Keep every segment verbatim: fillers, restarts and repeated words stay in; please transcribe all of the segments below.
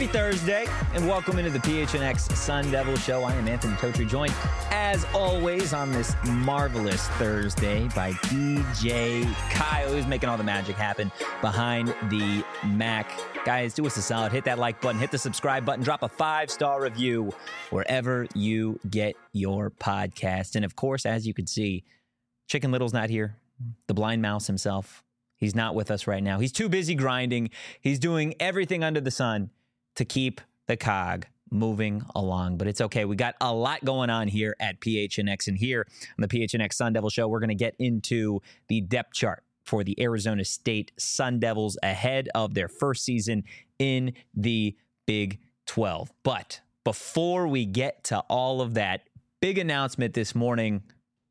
Happy Thursday, and welcome into the P H N X Sun Devil Show. I am Anthony Totri, joined, as always, on this marvelous Thursday by D J Kyle, who's making all the magic happen behind the Mac. Guys, do us a solid. Hit that like button, hit the subscribe button, drop a five-star review wherever you get your podcast. And, of course, as you can see, Chicken Little's not here. The blind mouse himself. He's not with us right now. He's too busy grinding. He's doing everything under the sun to keep the cog moving along. But it's okay. We got a lot going on here at P H N X. And here on the P H N X Sun Devil Show, we're going to get into the depth chart for the Arizona State Sun Devils ahead of their first season in the Big twelve. But before we get to all of that, big announcement this morning,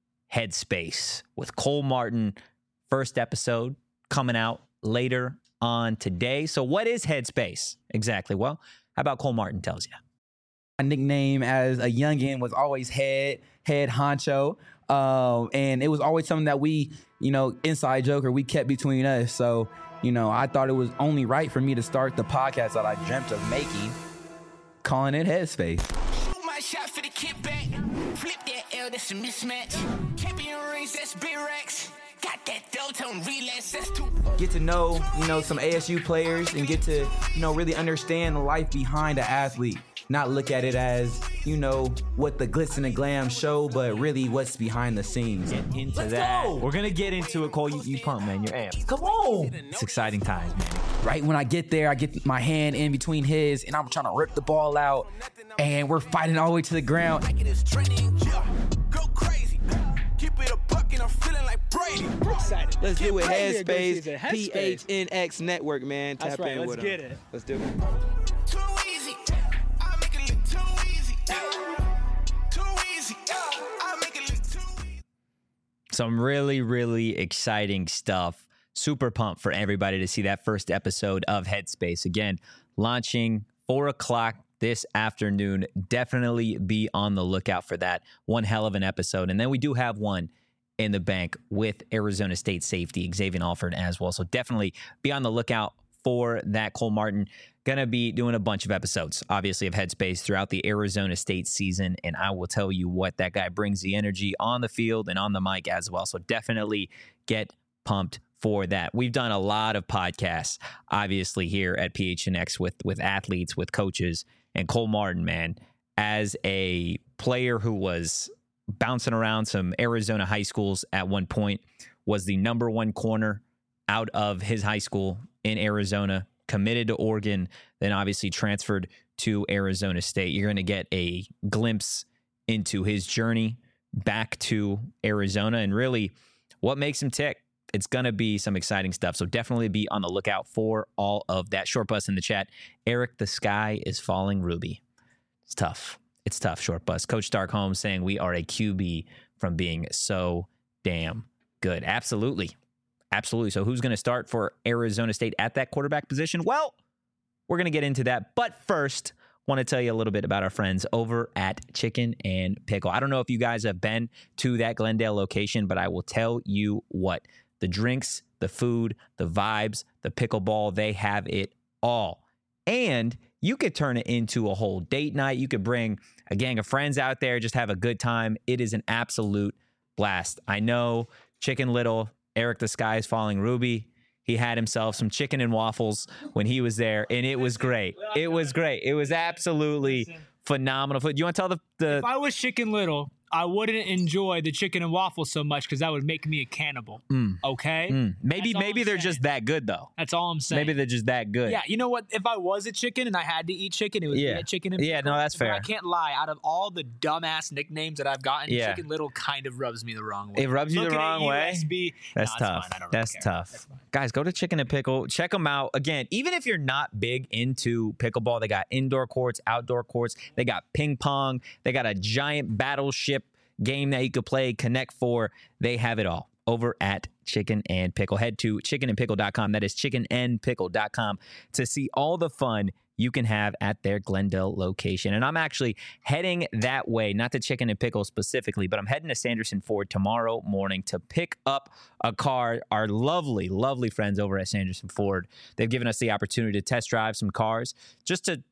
Headspace with Cole Martin. First episode coming out later on today. So what is Headspace exactly? Well, how about Cole Martin tells you? My nickname as a youngin was always head, head honcho. Um, and it was always something that we, you know, inside joke or we kept between us. So, you know, I thought it was only right for me to start the podcast that I dreamt of making, calling it Headspace. Shoot my shot for the kickback. Flip that L, that's a mismatch. Champion rings, that's big racks. Got that Deltone relax, that's too. Get to know, you know, some A S U players and get to, you know, really understand the life behind an athlete. Not look at it as, you know, what the glitz and the glam show, but really what's behind the scenes. Get into Let's that. go. We're going to get into it, Cole. You, you pumped, man. You're amped. Come on. It's exciting times, man. Right when I get there, I get my hand in between his, and I'm trying to rip the ball out, and we're fighting all the way to the ground. Like it is trending, yeah. Go crazy. Keep it a buck and I'm feeling like Brady. Excited. Let's do it. Brady a good Headspace, season. P Headspace. H N X Network, man. Tap That's right. in Let's with get them. it. Let's do it. Too easy. I make it look too easy. Too easy. I make it look too easy. Some really, really exciting stuff. Super pumped for everybody to see that first episode of Headspace. Again, launching four o'clock this afternoon. Definitely be on the lookout for that. One hell of an episode. And then we do have one in the bank with Arizona State safety Xavier Alford as well. So definitely be on the lookout for that. Cole Martin going to be doing a bunch of episodes, obviously, of Headspace throughout the Arizona State season. And I will tell you what, that guy brings the energy on the field and on the mic as well. So definitely get pumped for that. We've done a lot of podcasts, obviously, here at P H N X with, with athletes, with coaches, and Cole Martin, man, as a player who was bouncing around some Arizona high schools at one point, was the number one corner out of his high school in Arizona, committed to Oregon, then obviously transferred to Arizona State. You're going to get a glimpse into his journey back to Arizona and really what makes him tick. It's going to be some exciting stuff. So definitely be on the lookout for all of that. Short Bus in the chat. Eric, the sky is falling Ruby. It's tough. It's tough, Short Bus. Coach Stark Holmes saying we are a Q B from being so damn good. Absolutely. Absolutely. So who's going to start for Arizona State at that quarterback position? Well, we're going to get into that. But first, want to tell you a little bit about our friends over at Chicken and Pickle. I don't know if you guys have been to that Glendale location, but I will tell you what. The drinks, the food, the vibes, the pickleball, they have it all. And you could turn it into a whole date night. You could bring a gang of friends out there, just have a good time. It is an absolute blast. I know Chicken Little, Eric the Sky is Falling Ruby, he had himself some chicken and waffles when he was there, and it was great. It was great. It was absolutely phenomenal. Do you want to tell the... the If I was Chicken Little, I wouldn't enjoy the chicken and waffles so much because that would make me a cannibal. Mm. Okay? Mm. Maybe That's all maybe I'm they're saying. just that good, though. That's all I'm saying. Maybe they're just that good. Yeah, you know what? If I was a chicken and I had to eat chicken, it would Yeah. be a chicken and Yeah, no, pickle. that's But fair. I can't lie. Out of all the dumbass nicknames that I've gotten, Yeah. Chicken Little kind of rubs me the wrong way. It rubs you the Looking at wrong way? U S B, That's no, it's tough. fine. I don't really That's care. tough. That's fine. Guys, go to Chicken and Pickle. Check them out. Again, even if you're not big into pickleball, they got indoor courts, outdoor courts. They got ping pong. They got a giant battleship game that you could play, Connect Four. They have it all over at Chicken and Pickle. Head to chicken and pickle dot com. That is chicken and pickle dot com to see all the fun you can have at their Glendale location. And I'm actually heading that way, not to Chicken and Pickle specifically, but I'm heading to Sanderson Ford tomorrow morning to pick up a car. Our lovely, lovely friends over at Sanderson Ford, they've given us the opportunity to test drive some cars just to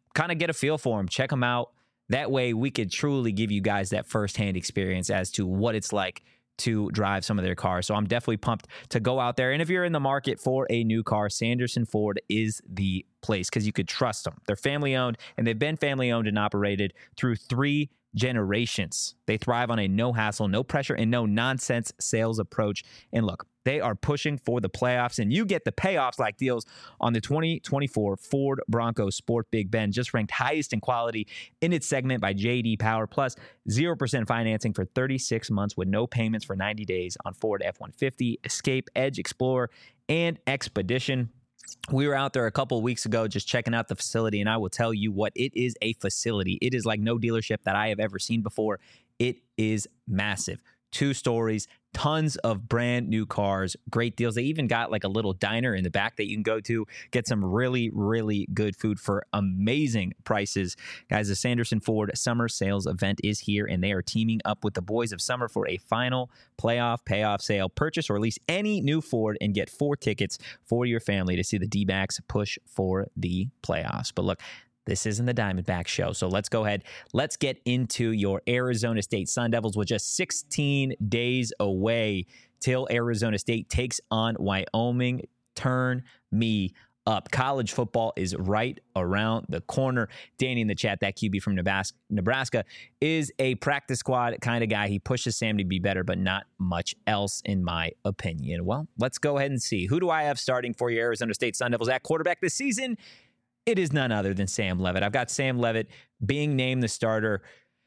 kind of get a feel for them, check them out. That way we could truly give you guys that firsthand experience as to what it's like to drive some of their cars. So I'm definitely pumped to go out there. And if you're in the market for a new car, Sanderson Ford is the place because you could trust them. They're family owned, and they've been family owned and operated through three generations. They thrive on a no hassle, no pressure, and no nonsense sales approach. And look, they are pushing for the playoffs, and you get the payoffs like deals on the twenty twenty-four Ford Bronco Sport Big Ben, just ranked highest in quality in its segment by J D Power, plus zero percent financing for thirty-six months with no payments for ninety days on Ford F one fifty, Escape, Edge, Explorer, and Expedition. We were out there a couple of weeks ago just checking out the facility, and I will tell you what, it is a facility. It is like no dealership that I have ever seen before. It is massive. Two stories, tons of brand new cars, great deals. They even got like a little diner in the back that you can go to, get some really, really good food for amazing prices. Guys, the Sanderson Ford Summer Sales Event is here, and they are teaming up with the Boys of Summer for a final playoff payoff sale. Purchase or lease any new Ford and get four tickets for your family to see the D-backs push for the playoffs. But look, this isn't the Diamondback show, so let's go ahead. Let's get into your Arizona State Sun Devils with just sixteen days away till Arizona State takes on Wyoming. Turn me up. College football is right around the corner. Danny in the chat, that Q B from Nebraska, is a practice squad kind of guy. He pushes Sam to be better, but not much else in my opinion. Well, let's go ahead and see. Who do I have starting for your Arizona State Sun Devils at quarterback this season? It is none other than Sam Levitt. I've got Sam Levitt being named the starter.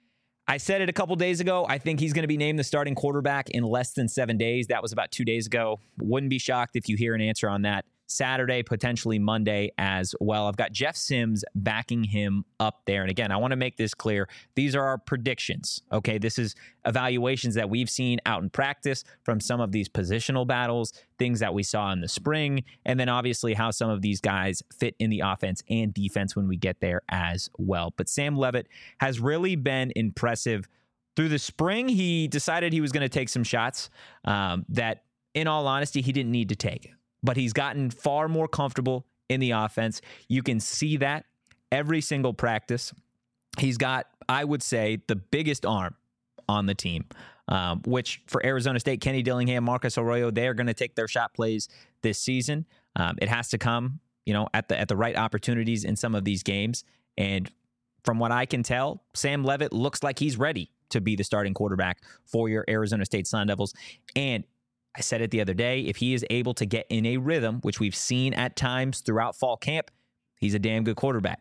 I said it a couple days ago. I think he's going to be named the starting quarterback in less than seven days. That was about two days ago. Wouldn't be shocked if you hear an answer on that Saturday, potentially Monday as well. I've got Jeff Sims backing him up there. And again, I want to make this clear. These are our predictions. Okay, this is evaluations that we've seen out in practice from some of these positional battles, things that we saw in the spring, and then obviously how some of these guys fit in the offense and defense when we get there as well. But Sam Levitt has really been impressive. Through the spring, he decided he was going to take some shots um, that, in all honesty, he didn't need to take. But he's gotten far more comfortable in the offense. You can see that every single practice. He's got, I would say, the biggest arm on the team, um, which for Arizona State, Kenny Dillingham, Marcus Arroyo, they are going to take their shot plays this season. Um, it has to come, you know, at the at the right opportunities in some of these games. And from what I can tell, Sam Levitt looks like he's ready to be the starting quarterback for your Arizona State Sun Devils. And I said it the other day, if he is able to get in a rhythm, which we've seen at times throughout fall camp, he's a damn good quarterback.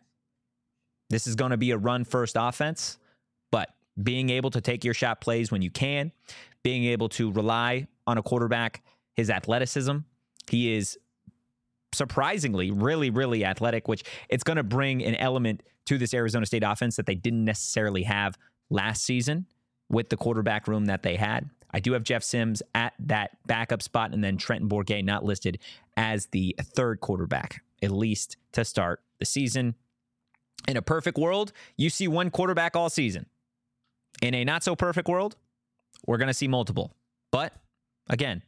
This is going to be a run-first offense, but being able to take your shot plays when you can, being able to rely on a quarterback, his athleticism, he is surprisingly really, really athletic, which it's going to bring an element to this Arizona State offense that they didn't necessarily have last season with the quarterback room that they had. I do have Jeff Sims at that backup spot, and then Trenton Bourguet not listed as the third quarterback, at least to start the season. In a perfect world, you see one quarterback all season. In a not-so-perfect world, we're going to see multiple. But, again,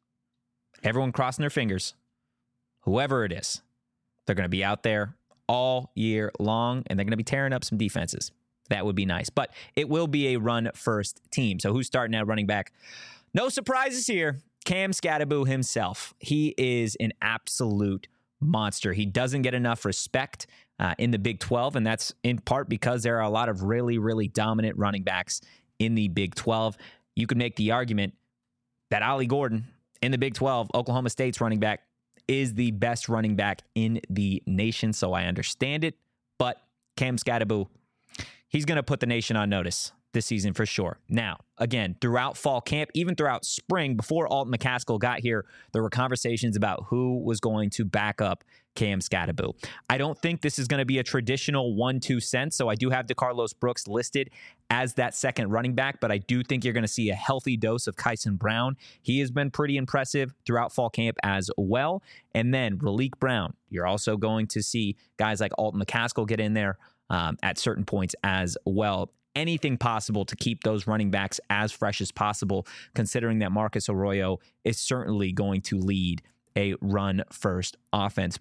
everyone crossing their fingers, whoever it is, they're going to be out there all year long, and they're going to be tearing up some defenses. That would be nice. But it will be a run-first team. So who's starting at running back? No surprises here. Cam Skattebo himself. He is an absolute monster. He doesn't get enough respect uh, in the Big twelve, and that's in part because there are a lot of really, really dominant running backs in the Big twelve. You could make the argument that Ollie Gordon in the Big twelve, Oklahoma State's running back, is the best running back in the nation, so I understand it. But Cam Skattebo, he's going to put the nation on notice this season for sure. Now, again, throughout fall camp, even throughout spring, before Alton McCaskill got here, there were conversations about who was going to back up Cam Skattebo. I don't think this is going to be a traditional one two sense, so I do have DeCarlos Brooks listed as that second running back, but I do think you're going to see a healthy dose of Kyson Brown. He has been pretty impressive throughout fall camp as well. And then Raleek Brown, you're also going to see guys like Alton McCaskill get in there Um, at certain points as well. Anything possible to keep those running backs as fresh as possible, considering that Marcus Arroyo is certainly going to lead a run-first offense. But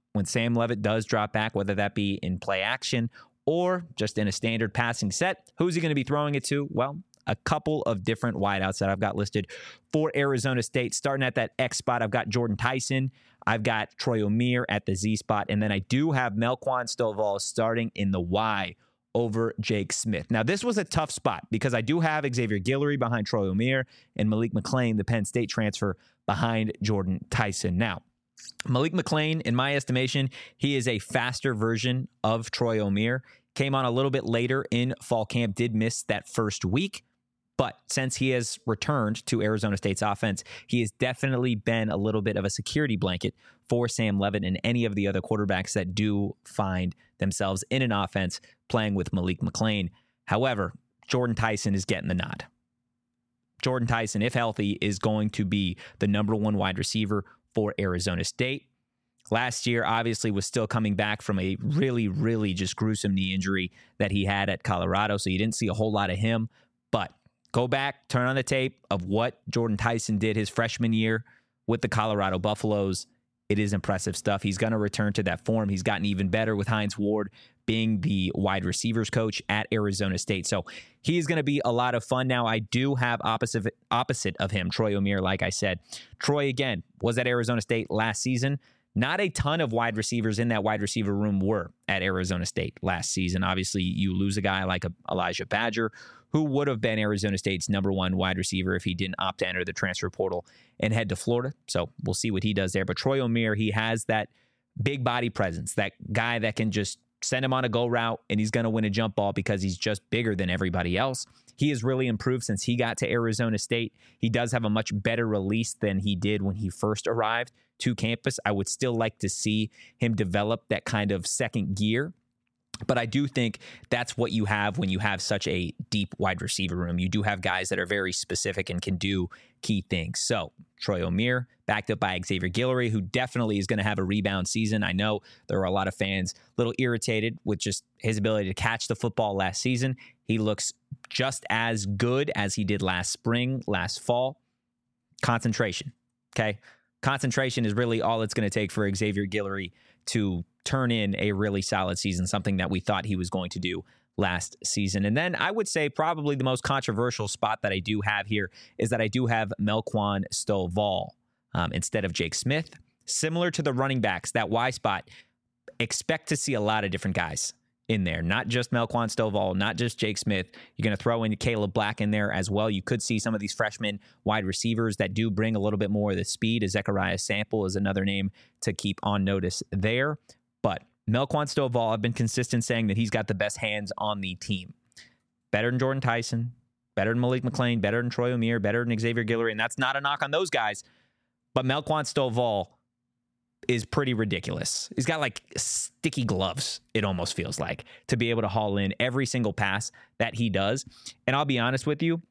when Sam Levitt does drop back, whether that be in play action or just in a standard passing set, who's he going to be throwing it to? Well, a couple of different wideouts that I've got listed for Arizona State. Starting at that X spot, I've got Jordan Tyson. I've got Troy Omeire at the Z spot. And then I do have Melquan Stovall starting in the Y over Jake Smith. Now, this was a tough spot because I do have Xavier Guillory behind Troy Omeire and Malik McClain, the Penn State transfer, behind Jordan Tyson. Now, Malik McClain, in my estimation, he is a faster version of Troy Omeire. Came on a little bit later in fall camp, did miss that first week. But since he has returned to Arizona State's offense, he has definitely been a little bit of a security blanket for Sam Levitt and any of the other quarterbacks that do find themselves in an offense playing with Malik McClain. However, Jordan Tyson is getting the nod. Jordan Tyson, if healthy, is going to be the number one wide receiver for Arizona State. Last year, obviously, was still coming back from a really, really just gruesome knee injury that he had at Colorado, so you didn't see a whole lot of him. But go back, turn on the tape of what Jordan Tyson did his freshman year with the Colorado Buffaloes. It is impressive stuff. He's going to return to that form. He's gotten even better with Hines Ward being the wide receivers coach at Arizona State. So he's going to be a lot of fun. Now, I do have opposite opposite of him, Troy Omeire, like I said. Troy, again, was at Arizona State last season. Not a ton of wide receivers in that wide receiver room were at Arizona State last season. Obviously, you lose a guy like a Elijah Badger, who would have been Arizona State's number one wide receiver if he didn't opt to enter the transfer portal and head to Florida. So we'll see what he does there. But Troy Omeire, he has that big body presence, that guy that can just send him on a go route and he's going to win a jump ball because he's just bigger than everybody else. He has really improved since he got to Arizona State. He does have a much better release than he did when he first arrived to campus. I would still like to see him develop that kind of second gear. But I do think that's what you have when you have such a deep wide receiver room. You do have guys that are very specific and can do key things. So Troy Omeire, backed up by Xavier Guillory, who definitely is going to have a rebound season. I know there are a lot of fans a little irritated with just his ability to catch the football last season. He looks just as good as he did last spring, last fall. Concentration, okay? Concentration is really all it's going to take for Xavier Guillory to turn in a really solid season, something that we thought he was going to do last season. And then I would say probably the most controversial spot that I do have here is that I do have Melquan Stovall um, instead of Jake Smith. Similar to the running backs, that Y spot, expect to see a lot of different guys in there, not just Melquan Stovall, not just Jake Smith. You're going to throw in Caleb Black in there as well. You could see some of these freshman wide receivers that do bring a little bit more of the speed. Zechariah Sample is another name to keep on notice there. But Melquan Stovall, I've been consistent saying that he's got the best hands on the team. Better than Jordan Tyson, better than Malik McClain, better than Troy Omeire, better than Xavier Guillory, and that's not a knock on those guys. But Melquan Stovall is pretty ridiculous. He's got like sticky gloves, it almost feels like, to be able to haul in every single pass that he does. And I'll be honest with you,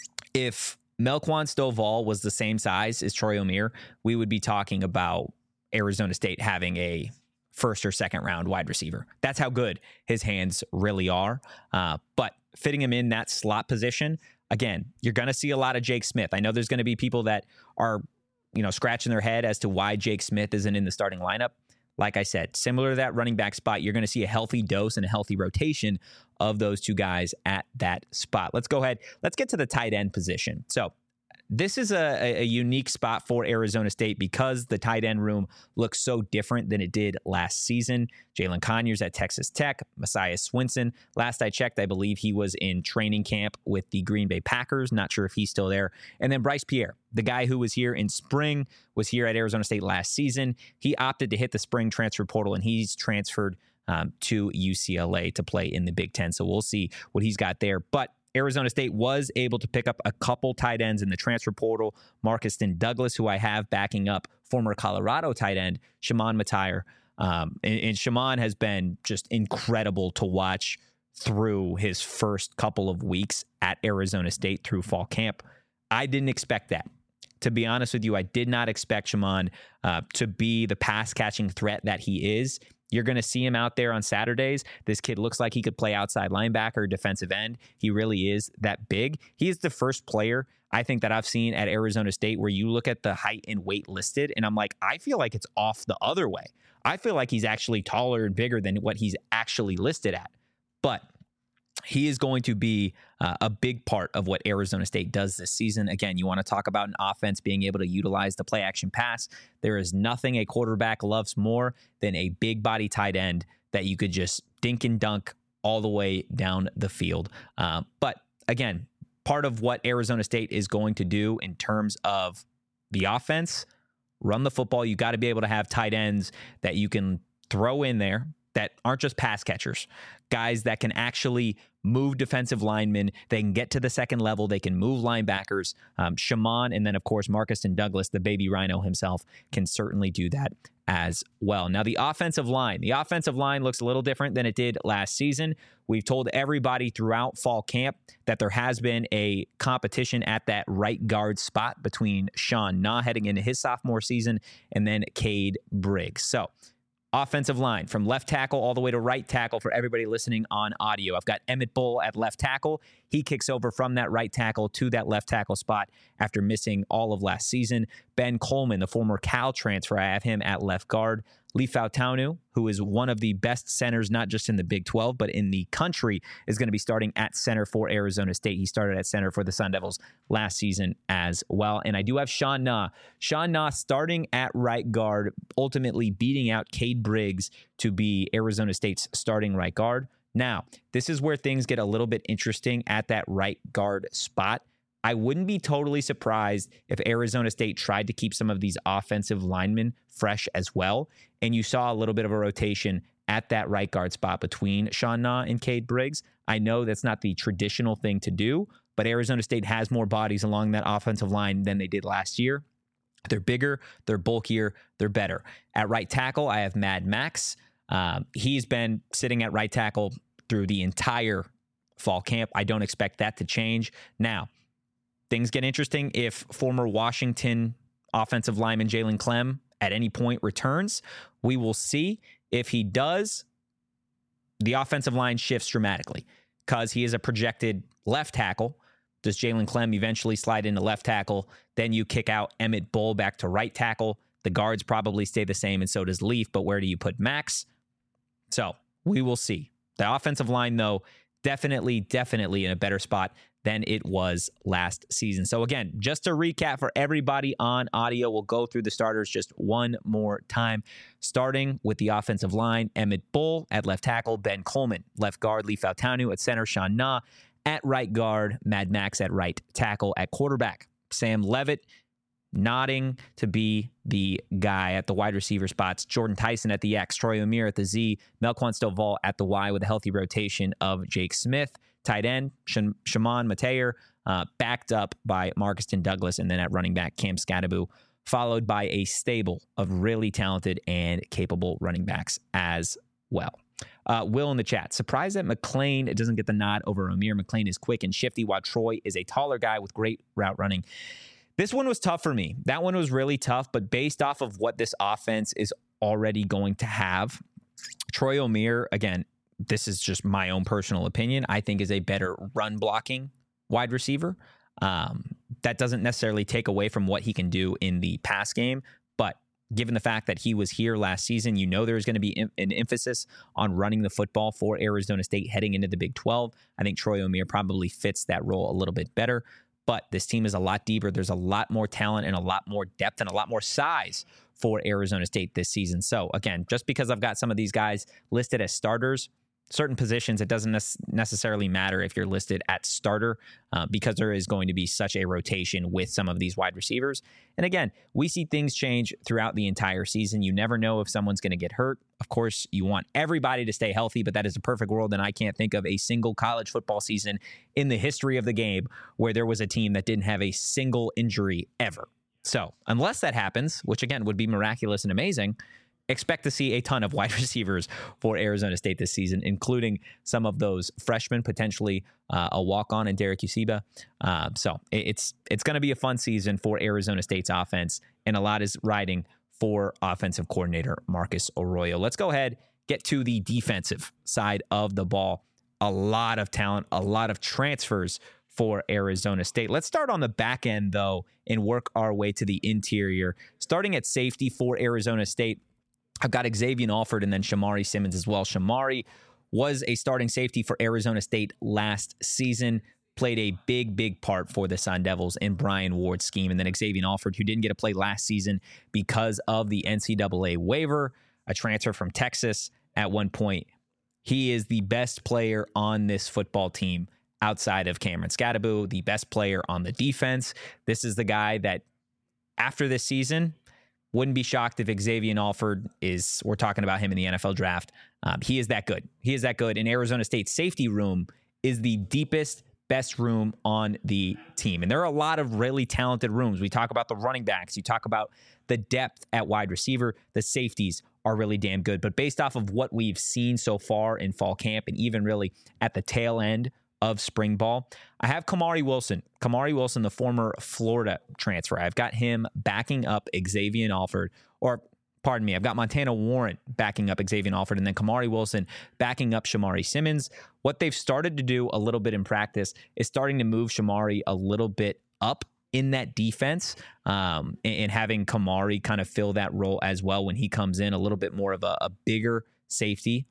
if Melquan Stovall was the same size as Troy Omeire, we would be talking about Arizona State having a first or second round wide receiver. That's how good his hands really are. Uh, but fitting him in that slot position, again, you're going to see a lot of Jake Smith. I know there's going to be people that are, you know, scratching their head as to why Jake Smith isn't in the starting lineup. Like I said, similar to that running back spot, you're going to see a healthy dose and a healthy rotation of those two guys at that spot. Let's go ahead. Let's get to the tight end position. So this is a, a unique spot for Arizona State because the tight end room looks so different than it did last season. Jalen Conyers at Texas Tech, Messiah Swinson. Last I checked, I believe he was in training camp with the Green Bay Packers. Not sure if he's still there. And then Bryce Pierre, the guy who was here in spring, was here at Arizona State last season. He opted to hit the spring transfer portal, and he's transferred um, to U C L A to play in the Big Ten. So we'll see what he's got there. But Arizona State was able to pick up a couple tight ends in the transfer portal. Marcuston Douglas, who I have backing up former Colorado tight end, Shimon Matire. Um, and, and Shimon has been just incredible to watch through his first couple of weeks at Arizona State through fall camp. I didn't expect that. To be honest with you, I did not expect Shimon uh, to be the pass-catching threat that he is. You're going to see him out there on Saturdays. This kid looks like he could play outside linebacker, defensive end. He really is that big. He is the first player I think that I've seen at Arizona State where you look at the height and weight listed, and I'm like, I feel like it's off the other way. I feel like he's actually taller and bigger than what he's actually listed at. But he is going to be uh, a big part of what Arizona State does this season. Again, you want to talk about an offense being able to utilize the play action pass. There is nothing a quarterback loves more than a big body tight end that you could just dink and dunk all the way down the field. Uh, but again, part of what Arizona State is going to do in terms of the offense, run the football. You got to be able to have tight ends that you can throw in there that aren't just pass catchers, guys that can actually move defensive linemen. They can get to the second level. They can move linebackers. Um, Shaman, and then, of course, Marcuston Douglas, the baby rhino himself, can certainly do that as well. Now, the offensive line. The offensive line looks a little different than it did last season. We've told everybody throughout fall camp that there has been a competition at that right guard spot between Sean Na heading into his sophomore season and then Cade Briggs. So, offensive line from left tackle all the way to right tackle for everybody listening on audio. I've got Emmett Bull at left tackle. He kicks over from that right tackle to that left tackle spot after missing all of last season. Ben Coleman, the former Cal transfer, I have him at left guard. Lee Fautanu, who is one of the best centers, not just in the Big twelve, but in the country, is going to be starting at center for Arizona State. He started at center for the Sun Devils last season as well. And I do have Sean Na. Sean Na starting at right guard, ultimately beating out Cade Briggs to be Arizona State's starting right guard. Now, this is where things get a little bit interesting at that right guard spot. I wouldn't be totally surprised if Arizona State tried to keep some of these offensive linemen fresh as well. And you saw a little bit of a rotation at that right guard spot between Sean Na and Cade Briggs. I know that's not the traditional thing to do, but Arizona State has more bodies along that offensive line than they did last year. They're bigger, they're bulkier, they're better. At right tackle, I have Mad Max. Um, he's been sitting at right tackle through the entire fall camp. I don't expect that to change. Now, things get interesting if former Washington offensive lineman Jalen Clem at any point returns. We will see. If he does, the offensive line shifts dramatically because he is a projected left tackle. Does Jalen Clem eventually slide into left tackle? Then you kick out Emmett Bull back to right tackle. The guards probably stay the same, and so does Leaf, but where do you put Max? So we will see. The offensive line, though, definitely, definitely in a better spot than it was last season. So again, just to recap for everybody on audio, we'll go through the starters just one more time. Starting with the offensive line, Emmett Bull at left tackle, Ben Coleman, left guard, Lee Fautanu at center, Sean Na at right guard, Mad Max at right tackle. At quarterback, Sam Levitt nodding to be the guy at the wide receiver spots, Jordan Tyson at the X, Troy O'Meara at the Z, Melquan Stovall at the Y with a healthy rotation of Jake Smith. Tight end, Shimon Mateer, uh, backed up by Marcuston Douglas, and then at running back, Cam Scadaboo, followed by a stable of really talented and capable running backs as well. Uh, Will in the chat, surprised that McClain doesn't get the nod over O'Meara. McClain is quick and shifty, while Troy is a taller guy with great route running. This one was tough for me. That one was really tough, but based off of what this offense is already going to have, Troy O'Meara, again, this is just my own personal opinion, I think is a better run blocking wide receiver. Um, that doesn't necessarily take away from what he can do in the pass game, but given the fact that he was here last season, you know there's going to be em- an emphasis on running the football for Arizona State heading into the Big twelve. I think Troy O'Meara probably fits that role a little bit better, but this team is a lot deeper. There's a lot more talent and a lot more depth and a lot more size for Arizona State this season. So again, just because I've got some of these guys listed as starters, certain positions, it doesn't necessarily matter if you're listed at starter uh, because there is going to be such a rotation with some of these wide receivers. And again, we see things change throughout the entire season. You never know if someone's going to get hurt. Of course, you want everybody to stay healthy, but that is a perfect world. And I can't think of a single college football season in the history of the game where there was a team that didn't have a single injury ever. So unless that happens, which again would be miraculous and amazing, expect to see a ton of wide receivers for Arizona State this season, including some of those freshmen, potentially uh, a walk-on in Derek Usiba. Uh, so it's it's going to be a fun season for Arizona State's offense, and a lot is riding for offensive coordinator Marcus Arroyo. Let's go ahead, get to the defensive side of the ball. A lot of talent, a lot of transfers for Arizona State. Let's start on the back end, though, and work our way to the interior. Starting at safety for Arizona State, I've got Xavier Alford and then Shamari Simmons as well. Shamari was a starting safety for Arizona State last season, played a big, big part for the Sun Devils in Brian Ward's scheme. And then Xavier Alford, who didn't get to play last season because of the N C double A waiver, a transfer from Texas at one point. He is the best player on this football team outside of Cameron Scadaboo, the best player on the defense. This is the guy that, after this season, wouldn't be shocked if Xavier Alford is, we're talking about him in the N F L draft. Um, he is that good. He is that good. And Arizona State's safety room is the deepest, best room on the team. And there are a lot of really talented rooms. We talk about the running backs. You talk about the depth at wide receiver. The safeties are really damn good. But based off of what we've seen so far in fall camp and even really at the tail end of spring ball, I have Kamari Wilson. Kamari Wilson, the former Florida transfer. I've got him backing up Xavier Alford, or pardon me, I've got Montana Warren backing up Xavier Alford, and then Kamari Wilson backing up Shamari Simmons. What they've started to do a little bit in practice is starting to move Shamari a little bit up in that defense, um, and, and having Kamari kind of fill that role as well when he comes in, a little bit more of a, a bigger safety.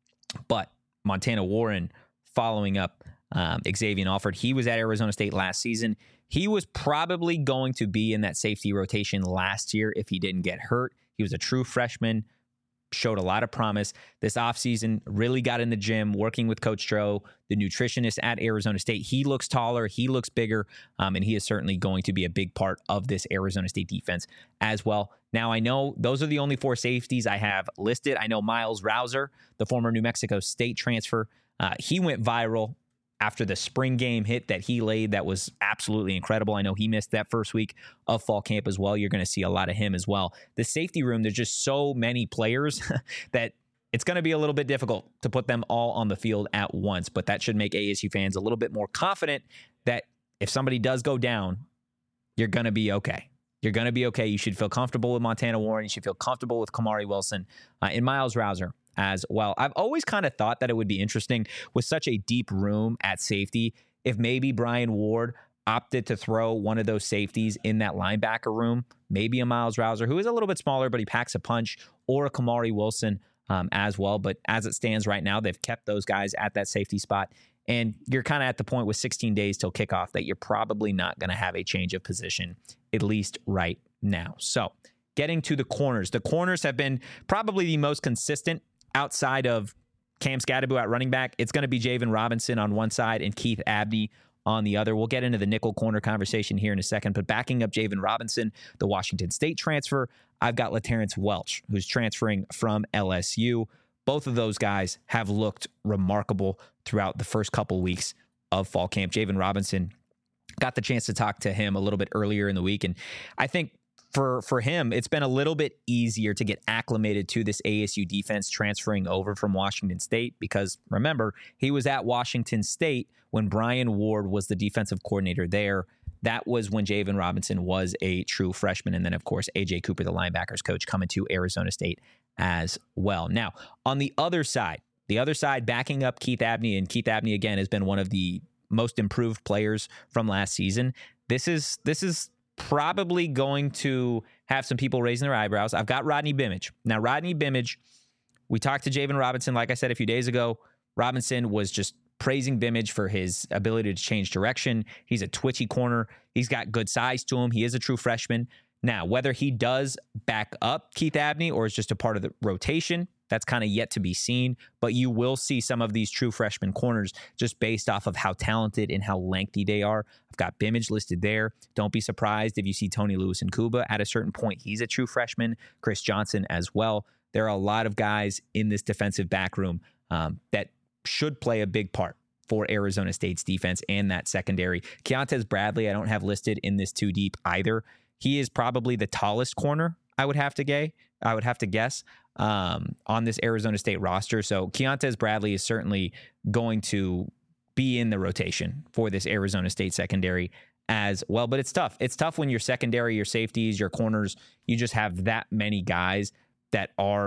But Montana Warren following up um, Xavier Alford. He was at Arizona State last season. He was probably going to be in that safety rotation last year if he didn't get hurt. He was a true freshman, showed a lot of promise. This offseason, really got in the gym, working with Coach Stroh, the nutritionist at Arizona State. He looks taller, he looks bigger, um, and he is certainly going to be a big part of this Arizona State defense as well. Now, I know those are the only four safeties I have listed. I know Miles Rouser, the former New Mexico State transfer, uh, he went viral after the spring game hit that he laid. That was absolutely incredible. I know he missed that first week of fall camp as well. You're going to see a lot of him as well. The safety room, there's just so many players that it's going to be a little bit difficult to put them all on the field at once, but that should make A S U fans a little bit more confident that if somebody does go down, you're going to be okay. You're going to be okay. You should feel comfortable with Montana Warren. You should feel comfortable with Kamari Wilson uh, and Miles Rouser as well. I've always kind of thought that it would be interesting with such a deep room at safety if maybe Brian Ward opted to throw one of those safeties in that linebacker room, maybe a Miles Rouser, who is a little bit smaller, but he packs a punch, or a Kamari Wilson um, as well. But as it stands right now, they've kept those guys at that safety spot. And you're kind of at the point with sixteen days till kickoff that you're probably not going to have a change of position, at least right now. So getting to the corners. The corners have been probably the most consistent outside of Cam Scadaboo at running back. It's going to be Javen Robinson on one side and Keith Abney on the other. We'll get into the nickel corner conversation here in a second, but backing up Javen Robinson, the Washington State transfer, I've got LaTerrence Welch, who's transferring from L S U. Both of those guys have looked remarkable throughout the first couple weeks of fall camp. Javen Robinson, got the chance to talk to him a little bit earlier in the week, and I think For for him, it's been a little bit easier to get acclimated to this A S U defense transferring over from Washington State because, remember, he was at Washington State when Brian Ward was the defensive coordinator there. That was when Javen Robinson was a true freshman. And then, of course, A J Cooper, the linebackers coach, coming to Arizona State as well. Now, on the other side, the other side backing up Keith Abney, and Keith Abney, again, has been one of the most improved players from last season. This is this is... probably going to have some people raising their eyebrows. I've got Rodney Bimage. Now, Rodney Bimage, we talked to Javen Robinson, like I said a few days ago. Robinson was just praising Bimage for his ability to change direction. He's a twitchy corner. He's got good size to him. He is a true freshman. Now, whether he does back up Keith Abney or is just a part of the rotation, that's kind of yet to be seen, but you will see some of these true freshman corners just based off of how talented and how lengthy they are. I've got Bimage listed there. Don't be surprised if you see Tony Lewis and Kuba at a certain point. He's a true freshman. Chris Johnson as well. There are a lot of guys in this defensive back room um, that should play a big part for Arizona State's defense and that secondary. Keontez Bradley, I don't have listed in this too deep either. He is probably the tallest corner, I would have to gay. I would have to guess, um, on this Arizona State roster. So Keontez Bradley is certainly going to be in the rotation for this Arizona State secondary as well. But it's tough. It's tough when your secondary, your safeties, your corners, you just have that many guys that are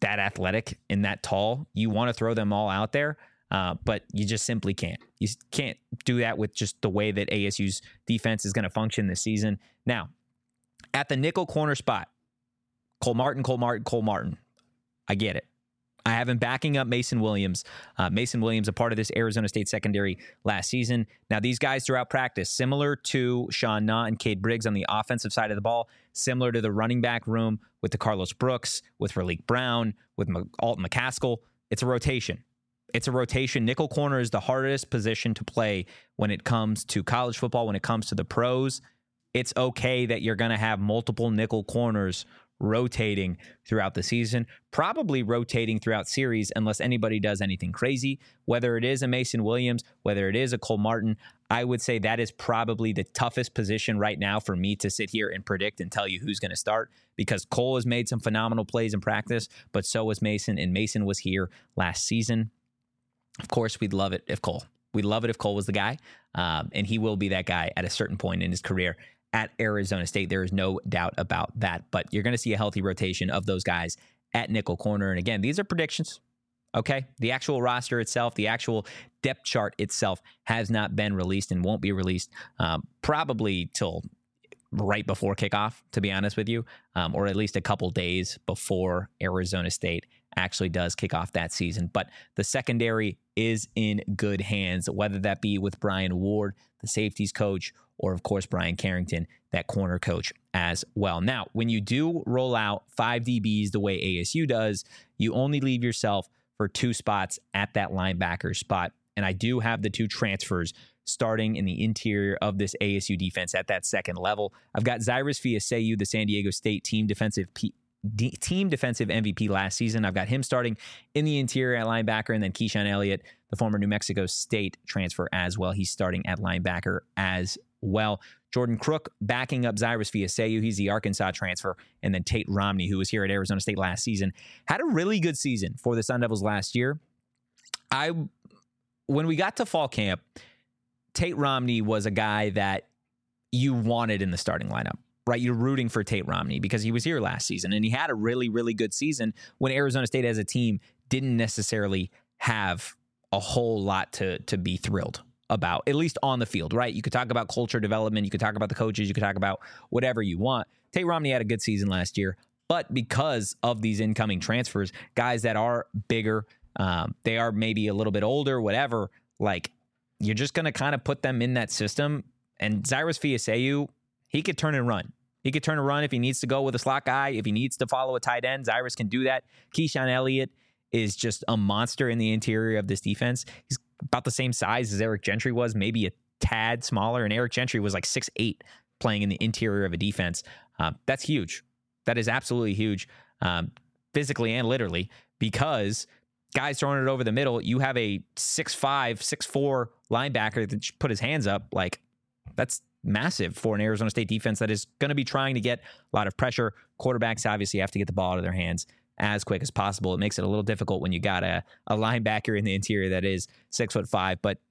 that athletic and that tall. You want to throw them all out there, uh, but you just simply can't. You can't do that with just the way that A S U's defense is going to function this season. Now, at the nickel corner spot, Cole Martin, Cole Martin, Cole Martin. I get it. I have him backing up Mason Williams. Uh, Mason Williams, a part of this Arizona State secondary last season. Now, these guys throughout practice, similar to Sean Knott and Cade Briggs on the offensive side of the ball, similar to the running back room with the Carlos Brooks, with Raleek Brown, with M- Alton McCaskill. It's a rotation. It's a rotation. Nickel corner is the hardest position to play when it comes to college football, when it comes to the pros. It's okay that you're going to have multiple nickel corners rotating throughout the season, probably rotating throughout series unless anybody does anything crazy. Whether it is a Mason Williams, whether it is a Cole Martin, I would say that is probably the toughest position right now for me to sit here and predict and tell you who's going to start, because Cole has made some phenomenal plays in practice, but so was Mason, and Mason was here last season. Of course, we'd love it if Cole. We'd love it if Cole was the guy, um, and he will be that guy at a certain point in his career at Arizona State. There is no doubt about that. But you're going to see a healthy rotation of those guys at nickel corner. And again, these are predictions, okay? The actual roster itself, the actual depth chart itself has not been released and won't be released um, probably till right before kickoff, to be honest with you, um, or at least a couple days before Arizona State actually does kick off that season. But the secondary is in good hands, whether that be with Brian Ward, the safeties coach, or of course, Brian Carrington, that corner coach as well. Now, when you do roll out five D Bs the way A S U does, you only leave yourself for two spots at that linebacker spot. And I do have the two transfers starting in the interior of this A S U defense at that second level. I've got Cyrus Fiaseu, the San Diego State team defensive P- D- team defensive M V P last season. I've got him starting in the interior at linebacker, and then Keyshawn Elliott, the former New Mexico State transfer as well. He's starting at linebacker as well. Jordan Crook backing up Cyrus Fiaseu. He's the Arkansas transfer. And then Tate Romney, who was here at Arizona State last season, had a really good season for the Sun Devils last year. I, when we got to fall camp, Tate Romney was a guy that you wanted in the starting lineup, right? You're rooting for Tate Romney because he was here last season and he had a really, really good season when Arizona State as a team didn't necessarily have a whole lot to, to be thrilled about, at least on the field, right? You could talk about culture development. You could talk about the coaches. You could talk about whatever you want. Tate Romney had a good season last year, but because of these incoming transfers, guys that are bigger, um, they are maybe a little bit older, whatever, like you're just going to kind of put them in that system. And Cyrus Fiaseu, he could turn and run. He could turn and run if he needs to go with a slot guy. If he needs to follow a tight end, Cyrus can do that. Keyshawn Elliott is just a monster in the interior of this defense. He's about the same size as Eric Gentry was, maybe a tad smaller. And Eric Gentry was like six eight playing in the interior of a defense. Um, that's huge. That is absolutely huge, um, physically and literally, because guys throwing it over the middle, you have a six five, six four linebacker that put his hands up. Like, that's massive for an Arizona State defense that is going to be trying to get a lot of pressure. Quarterbacks obviously have to get the ball out of their hands as quick as possible. It makes it a little difficult when you got a, a linebacker in the interior that is six foot five. But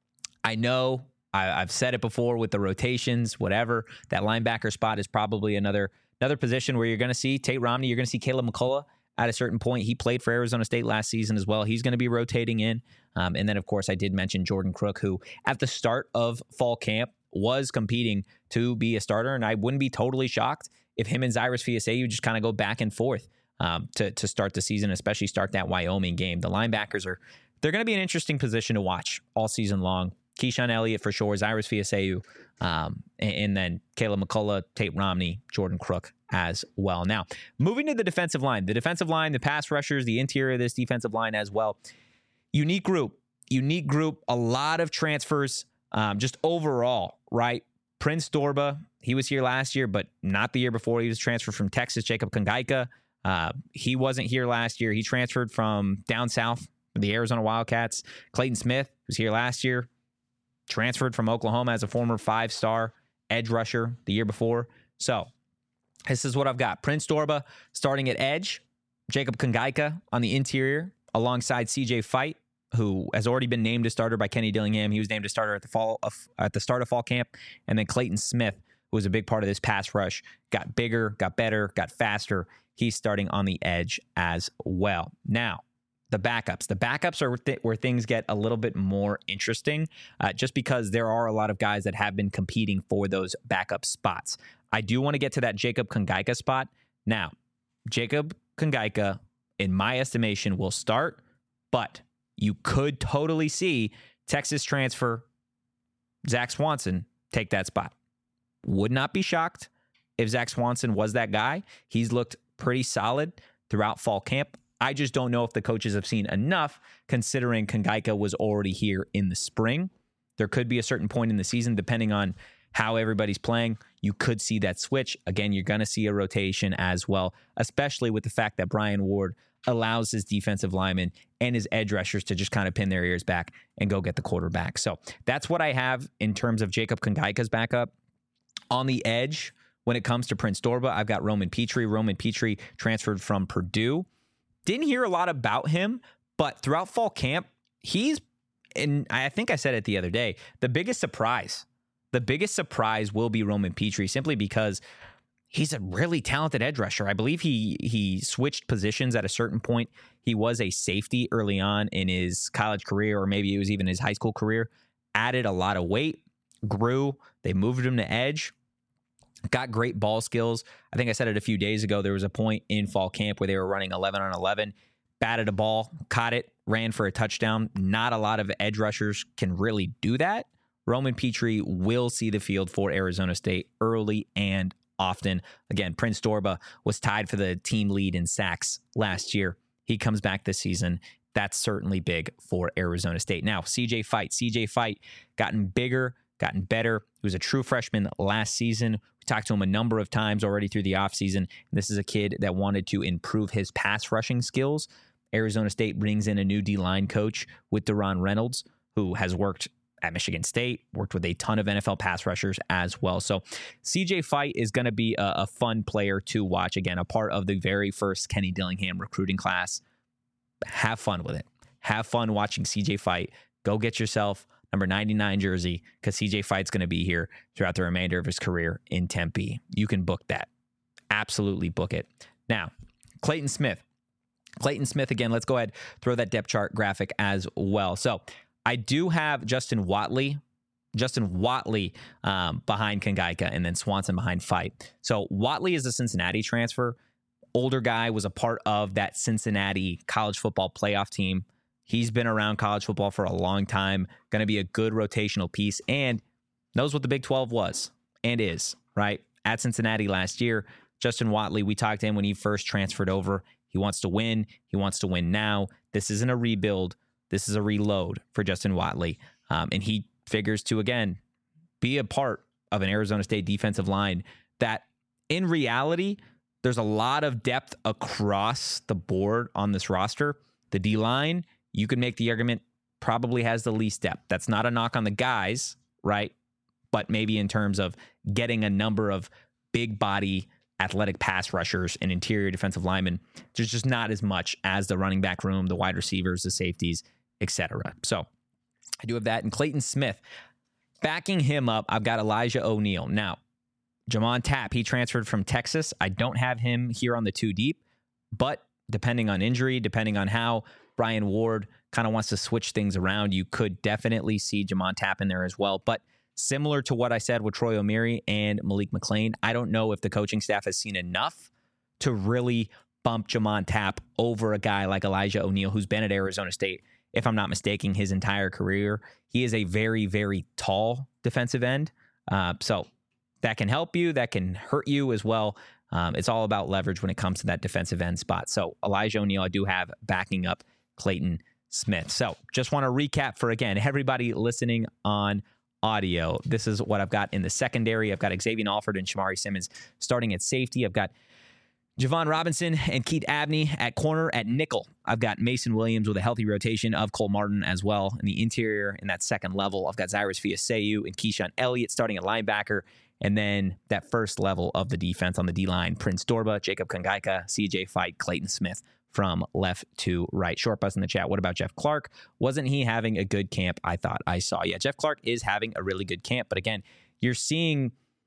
I know I, I've said it before with the rotations, whatever, that linebacker spot is probably another another position where you're going to see Tate Romney. You're going to see Caleb McCullough at a certain point. He played for Arizona State last season as well. He's going to be rotating in. Um, and then, of course, I did mention Jordan Crook, who at the start of fall camp was competing to be a starter. And I wouldn't be totally shocked if him and Cyrus Fiaseu just kind of go back and forth Um, to, to start the season, especially start that Wyoming game. The linebackers are, they're going to be an interesting position to watch all season long. Keyshawn Elliott for sure, Cyrus Fiaseu, um, and, and then Caleb McCullough, Tate Romney, Jordan Crook as well. Now, moving to the defensive line, the defensive line, the pass rushers, the interior of this defensive line as well. Unique group, unique group, a lot of transfers, um, just overall, right? Prince Dorba, he was here last year, but not the year before. He was transferred from Texas. Jacob Kongaika, Uh, he wasn't here last year. He transferred from down south, the Arizona Wildcats. Clayton Smith was here last year, transferred from Oklahoma as a former five-star edge rusher the year before. So this is what I've got. Prince Dorba starting at edge, Jacob Kongaika on the interior alongside C J Fight, who has already been named a starter by Kenny Dillingham. He was named a starter at the fall of, at the start of fall camp. And then Clayton Smith who was a big part of this pass rush, got bigger, got better, got faster. He's starting on the edge as well. Now, the backups. The backups are th- where things get a little bit more interesting, uh, just because there are a lot of guys that have been competing for those backup spots. I do want to get to that Jacob Kongaika spot. Now, Jacob Kongaika, in my estimation, will start, but you could totally see Texas transfer Zach Swanson take that spot. Would not be shocked if Zach Swanson was that guy. He's looked pretty solid throughout fall camp. I just don't know if the coaches have seen enough, considering Kongaika was already here in the spring. There could be a certain point in the season, depending on how everybody's playing, you could see that switch. Again, you're going to see a rotation as well, especially with the fact that Brian Ward allows his defensive linemen and his edge rushers to just kind of pin their ears back and go get the quarterback. So that's what I have in terms of Jacob Kongaika's backup. On the edge, when it comes to Prince Dorba, I've got Roman Petrie. Roman Petrie transferred from Purdue. Didn't hear a lot about him, but throughout fall camp, he's, and I think I said it the other day, the biggest surprise. The biggest surprise will be Roman Petrie, simply because he's a really talented edge rusher. I believe he he switched positions at a certain point. He was a safety early on in his college career, or maybe it was even his high school career. Added a lot of weight, grew. They moved him to edge. Got great ball skills. I think I said it a few days ago. There was a point in fall camp where they were running eleven on eleven, batted a ball, caught it, ran for a touchdown. Not a lot of edge rushers can really do that. Roman Petrie will see the field for Arizona State early and often. Again, Prince Dorba was tied for the team lead in sacks last year. He comes back this season. That's certainly big for Arizona State. Now, C J Fight. C J Fight gotten bigger, gotten better. He was a true freshman last season. We talked to him a number of times already through the offseason. This is a kid that wanted to improve his pass rushing skills. Arizona State brings in a new D-line coach with Deron Reynolds, who has worked at Michigan State, worked with a ton of N F L pass rushers as well. So C J Fight is going to be a, a fun player to watch. Again, a part of the very first Kenny Dillingham recruiting class. Have fun with it. Have fun watching C J Fight. Go get yourself number ninety-nine jersey, because C J Fight's going to be here throughout the remainder of his career in Tempe. You can book that. Absolutely book it. Now, Clayton Smith. Clayton Smith, again, let's go ahead, throw that depth chart graphic as well. So I do have Justin Watley, Justin Watley um, behind Kongaika, and then Swanson behind Fight. So Watley is a Cincinnati transfer. Older guy, was a part of that Cincinnati college football playoff team. He's been around college football for a long time, going to be a good rotational piece, and knows what the Big twelve was and is, right? At Cincinnati last year, Justin Watley, we talked to him when he first transferred over. He wants to win. He wants to win now. This isn't a rebuild. This is a reload for Justin Watley. Um, and he figures to, again, be a part of an Arizona State defensive line that, in reality, there's a lot of depth across the board on this roster. The D-line, you could make the argument, probably has the least depth. That's not a knock on the guys, right? But maybe in terms of getting a number of big body athletic pass rushers and interior defensive linemen, there's just not as much as the running back room, the wide receivers, the safeties, et cetera. So I do have that. And Clayton Smith, backing him up, I've got Elijah O'Neal. Now, Jamon Tapp, he transferred from Texas. I don't have him here on the two deep, but depending on injury, depending on how Brian Ward kind of wants to switch things around, you could definitely see Jamon Tapp in there as well. But similar to what I said with Troy O'Meary and Malik McClain, I don't know if the coaching staff has seen enough to really bump Jamon Tapp over a guy like Elijah O'Neal, who's been at Arizona State, if I'm not mistaken, his entire career. He is a very, very tall defensive end. Uh, so that can help you. That can hurt you as well. Um, it's all about leverage when it comes to that defensive end spot. So Elijah O'Neal, I do have backing up Clayton Smith. So just want to recap for, again, everybody listening on audio. This is what I've got in the secondary. I've got Xavier Alford and Shamari Simmons starting at safety. I've got Javon Robinson and Keith Abney at corner. At nickel, I've got Mason Williams with a healthy rotation of Cole Martin as well. In the interior, in that second level, I've got Cyrus Fiaseyu and Keyshawn Elliott starting at linebacker. And then that first level of the defense on the D-line, Prince Dorba, Jacob Kongaika, C J Fight, Clayton Smith from left to right. Short bus in the chat. What about Jeff Clark? Wasn't he having a good camp? I thought I saw. Yeah, Jeff Clark is having a really good camp. But again, you're seeing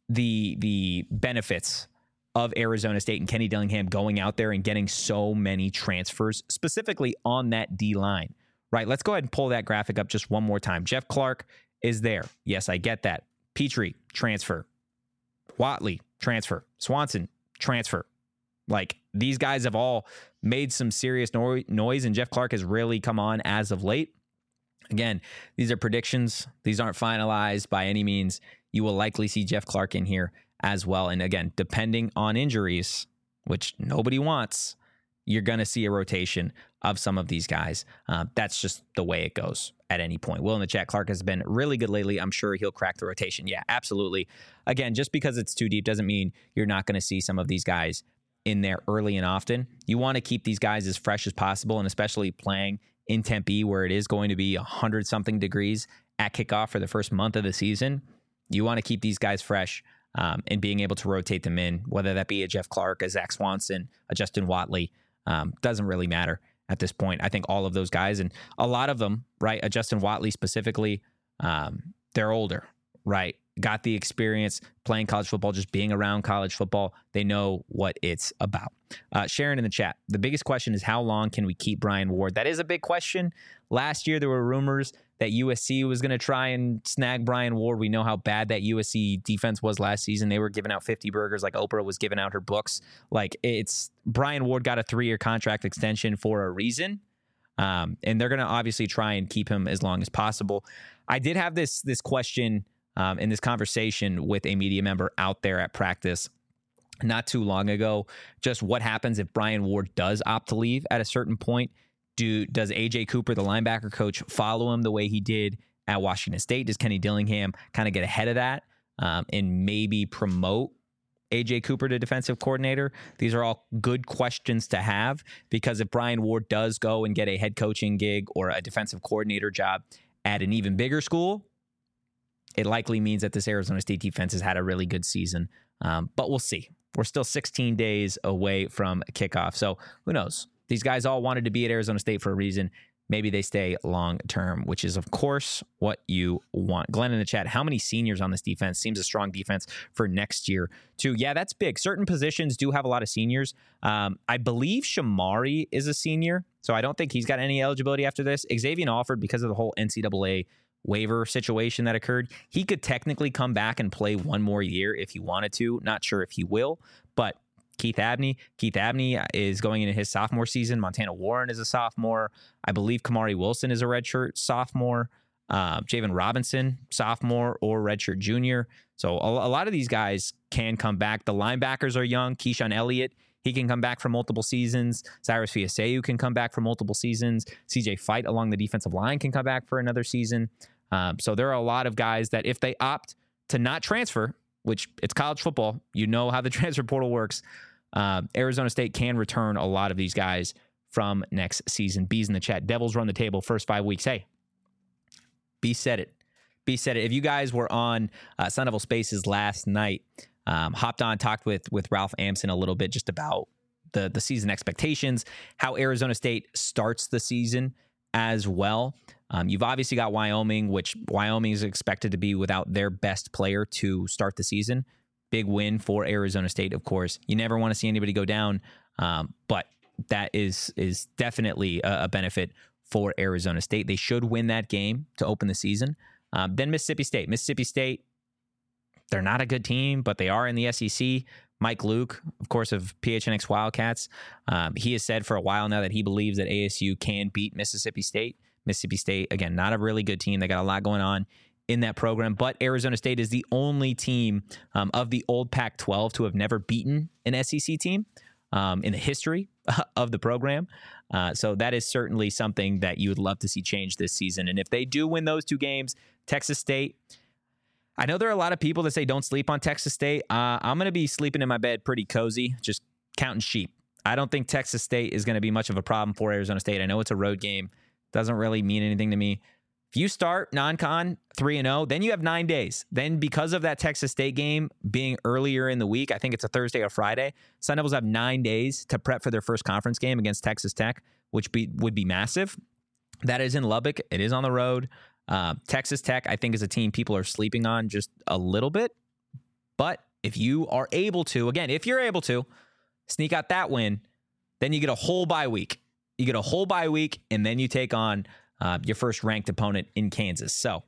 the the benefits of Arizona State and Kenny Dillingham going out there and getting so many transfers, specifically on that D line, right? Let's go ahead and pull that graphic up just one more time. Jeff Clark is there. Yes, I get that. Petrie, transfer. Watley, transfer. Swanson, transfer. Like, these guys have all made some serious no- noise, and Jeff Clark has really come on as of late. Again, these are predictions. These aren't finalized by any means. You will likely see Jeff Clark in here as well. And again, depending on injuries, which nobody wants, you're going to see a rotation of some of these guys. Uh, that's just the way it goes at any point. Will in the chat, Clark has been really good lately. I'm sure he'll crack the rotation. Yeah, absolutely. Again, just because it's too deep doesn't mean you're not going to see some of these guys in there early and often. You want to keep these guys as fresh as possible, and especially playing in Tempe where it is going to be one hundred something degrees at kickoff for the first month of the season. You want to keep these guys fresh um, and being able to rotate them in, whether that be a Jeff Clark, a Zach Swanson, a Justin Watley. Um, doesn't really matter at this point. I think all of those guys, and a lot of them, right, a Justin Watley specifically, um, they're older, right? Got the experience playing college football, just being around college football. They know what it's about. Uh, Sharon in the chat, the biggest question is how long can we keep Brian Ward? That is a big question. Last year, there were rumors that U S C was going to try and snag Brian Ward. We know how bad that U S C defense was last season. They were giving out fifty burgers like Oprah was giving out her books. Like, it's Brian Ward got a three-year contract extension for a reason. Um, and they're going to obviously try and keep him as long as possible. I did have this, this question Um, in this conversation with a media member out there at practice not too long ago, just what happens if Brian Ward does opt to leave at a certain point. Do Does A J Cooper, the linebacker coach, follow him the way he did at Washington State? Does Kenny Dillingham kind of get ahead of that um, and maybe promote A J Cooper to defensive coordinator? These are all good questions to have, because if Brian Ward does go and get a head coaching gig or a defensive coordinator job at an even bigger school, it likely means that this Arizona State defense has had a really good season. Um, but we'll see. We're still sixteen days away from kickoff. So who knows? These guys all wanted to be at Arizona State for a reason. Maybe they stay long term, which is, of course, what you want. Glenn in the chat, how many seniors on this defense? Seems a strong defense for next year, too. Yeah, that's big. Certain positions do have a lot of seniors. Um, I believe Shamari is a senior, so I don't think he's got any eligibility after this. Xavier Alford, because of the whole N C double A waiver situation that occurred, he could technically come back and play one more year if he wanted to. Not sure if he will, but Keith Abney. Keith Abney is going into his sophomore season. Montana Warren is a sophomore. I believe Kamari Wilson is a redshirt sophomore. Uh, Javen Robinson, sophomore or redshirt junior. So a, a lot of these guys can come back. The linebackers are young. Keyshawn Elliott, he can come back for multiple seasons. Cyrus Fiaseu can come back for multiple seasons. C J Fight along the defensive line can come back for another season. Um, so there are a lot of guys that if they opt to not transfer, which it's college football, you know how the transfer portal works, uh, Arizona State can return a lot of these guys from next season. B's in the chat. Devils run the table first five weeks. Hey, B said it. B said it. If you guys were on uh, Sun Devil Spaces last night, um, hopped on, talked with with Ralph Amson a little bit just about the the season expectations, how Arizona State starts the season as well. Um, you've obviously got Wyoming, which Wyoming is expected to be without their best player to start the season. Big win for Arizona State, of course. You never want to see anybody go down, um, but that is is definitely a, a benefit for Arizona State. They should win that game to open the season. Um, then Mississippi State. Mississippi State, they're not a good team, but they are in the S E C. Mike Luke, of course, of P H N X Wildcats, um, he has said for a while now that he believes that A S U can beat Mississippi State. Mississippi State, again, not a really good team. They got a lot going on in that program, but Arizona State is the only team um, of the old Pac twelve to have never beaten an S E C team um, in the history of the program. Uh, so that is certainly something that you would love to see change this season. And if they do win those two games, Texas State, I know there are a lot of people that say don't sleep on Texas State. Uh, I'm going to be sleeping in my bed pretty cozy, just counting sheep. I don't think Texas State is going to be much of a problem for Arizona State. I know it's a road game. Doesn't really mean anything to me. If you start non-con three and oh, then you have nine days. Then because of that Texas State game being earlier in the week, I think it's a Thursday or Friday, Sun Devils have nine days to prep for their first conference game against Texas Tech, which be, would be massive. That is in Lubbock. It is on the road. Uh, Texas Tech, I think, is a team people are sleeping on just a little bit. But if you are able to, again, if you're able to sneak out that win, then you get a whole bye week. You get a whole bye week, and then you take on uh, your first ranked opponent in Kansas. So,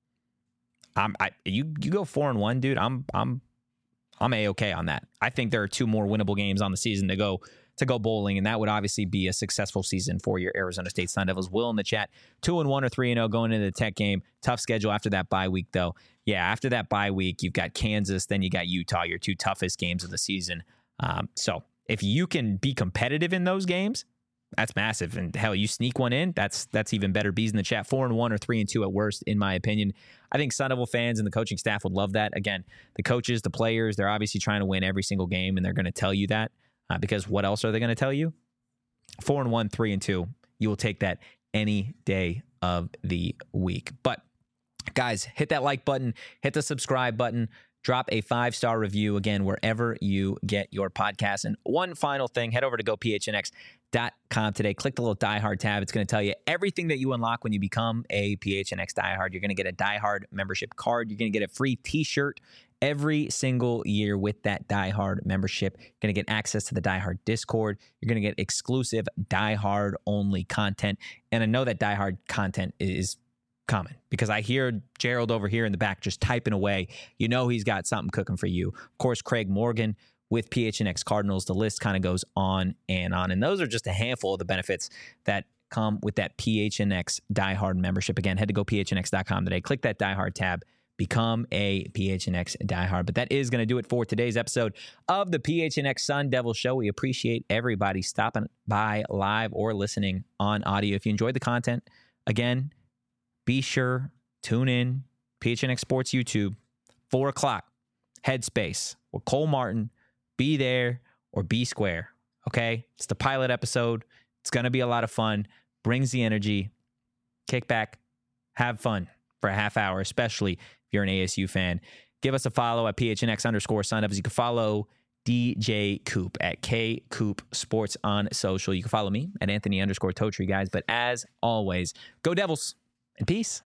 I'm I you you go four and one, dude. I'm I'm I'm a-okay on that. I think there are two more winnable games on the season to go to go bowling, and that would obviously be a successful season for your Arizona State Sun Devils. Will in the chat, two and one or three and zero going into the Tech game. Tough schedule after that bye week, though. Yeah, after that bye week, you've got Kansas, then you got Utah, your two toughest games of the season. Um, so if you can be competitive in those games, that's massive. And hell, you sneak one in, that's that's even better. Bees in the chat, four and one or three and two at worst, in my opinion. I think Sun Devil fans and the coaching staff would love that. Again, the coaches, the players, they're obviously trying to win every single game, and they're going to tell you that uh, because what else are they going to tell you? Four and one, three and two. You will take that any day of the week. But guys, hit that like button, hit the subscribe button. Drop a five-star review, again, wherever you get your podcast. And one final thing, head over to go P H N X dot com today. Click the little Die Hard tab. It's going to tell you everything that you unlock when you become a P H N X Die Hard. You're going to get a Die Hard membership card. You're going to get a free t-shirt every single year with that Die Hard membership. You're going to get access to the Die Hard Discord. You're going to get exclusive Die Hard-only content. And I know that Die Hard content is coming because I hear Gerald over here in the back just typing away. You know he's got something cooking for you. Of course, Craig Morgan with P H N X Cardinals. The list kind of goes on and on. And those are just a handful of the benefits that come with that P H N X Die Hard membership. Again, head to go P H N X dot com today. Click that Die Hard tab. Become a P H N X Die Hard. But that is going to do it for today's episode of the P H N X Sun Devil Show. We appreciate everybody stopping by live or listening on audio. If you enjoyed the content, again, be sure, tune in, P H N X Sports YouTube, four o'clock, Headspace, with Cole Martin. Be there or be square, okay? It's the pilot episode. It's going to be a lot of fun. Brings the energy. Kick back. Have fun for a half hour, especially if you're an A S U fan. Give us a follow at P H N X underscore Sun Devils. You can follow D J Coop at K Coop Sports on social. You can follow me at Anthony underscore Totri, guys. But as always, go Devils and peace.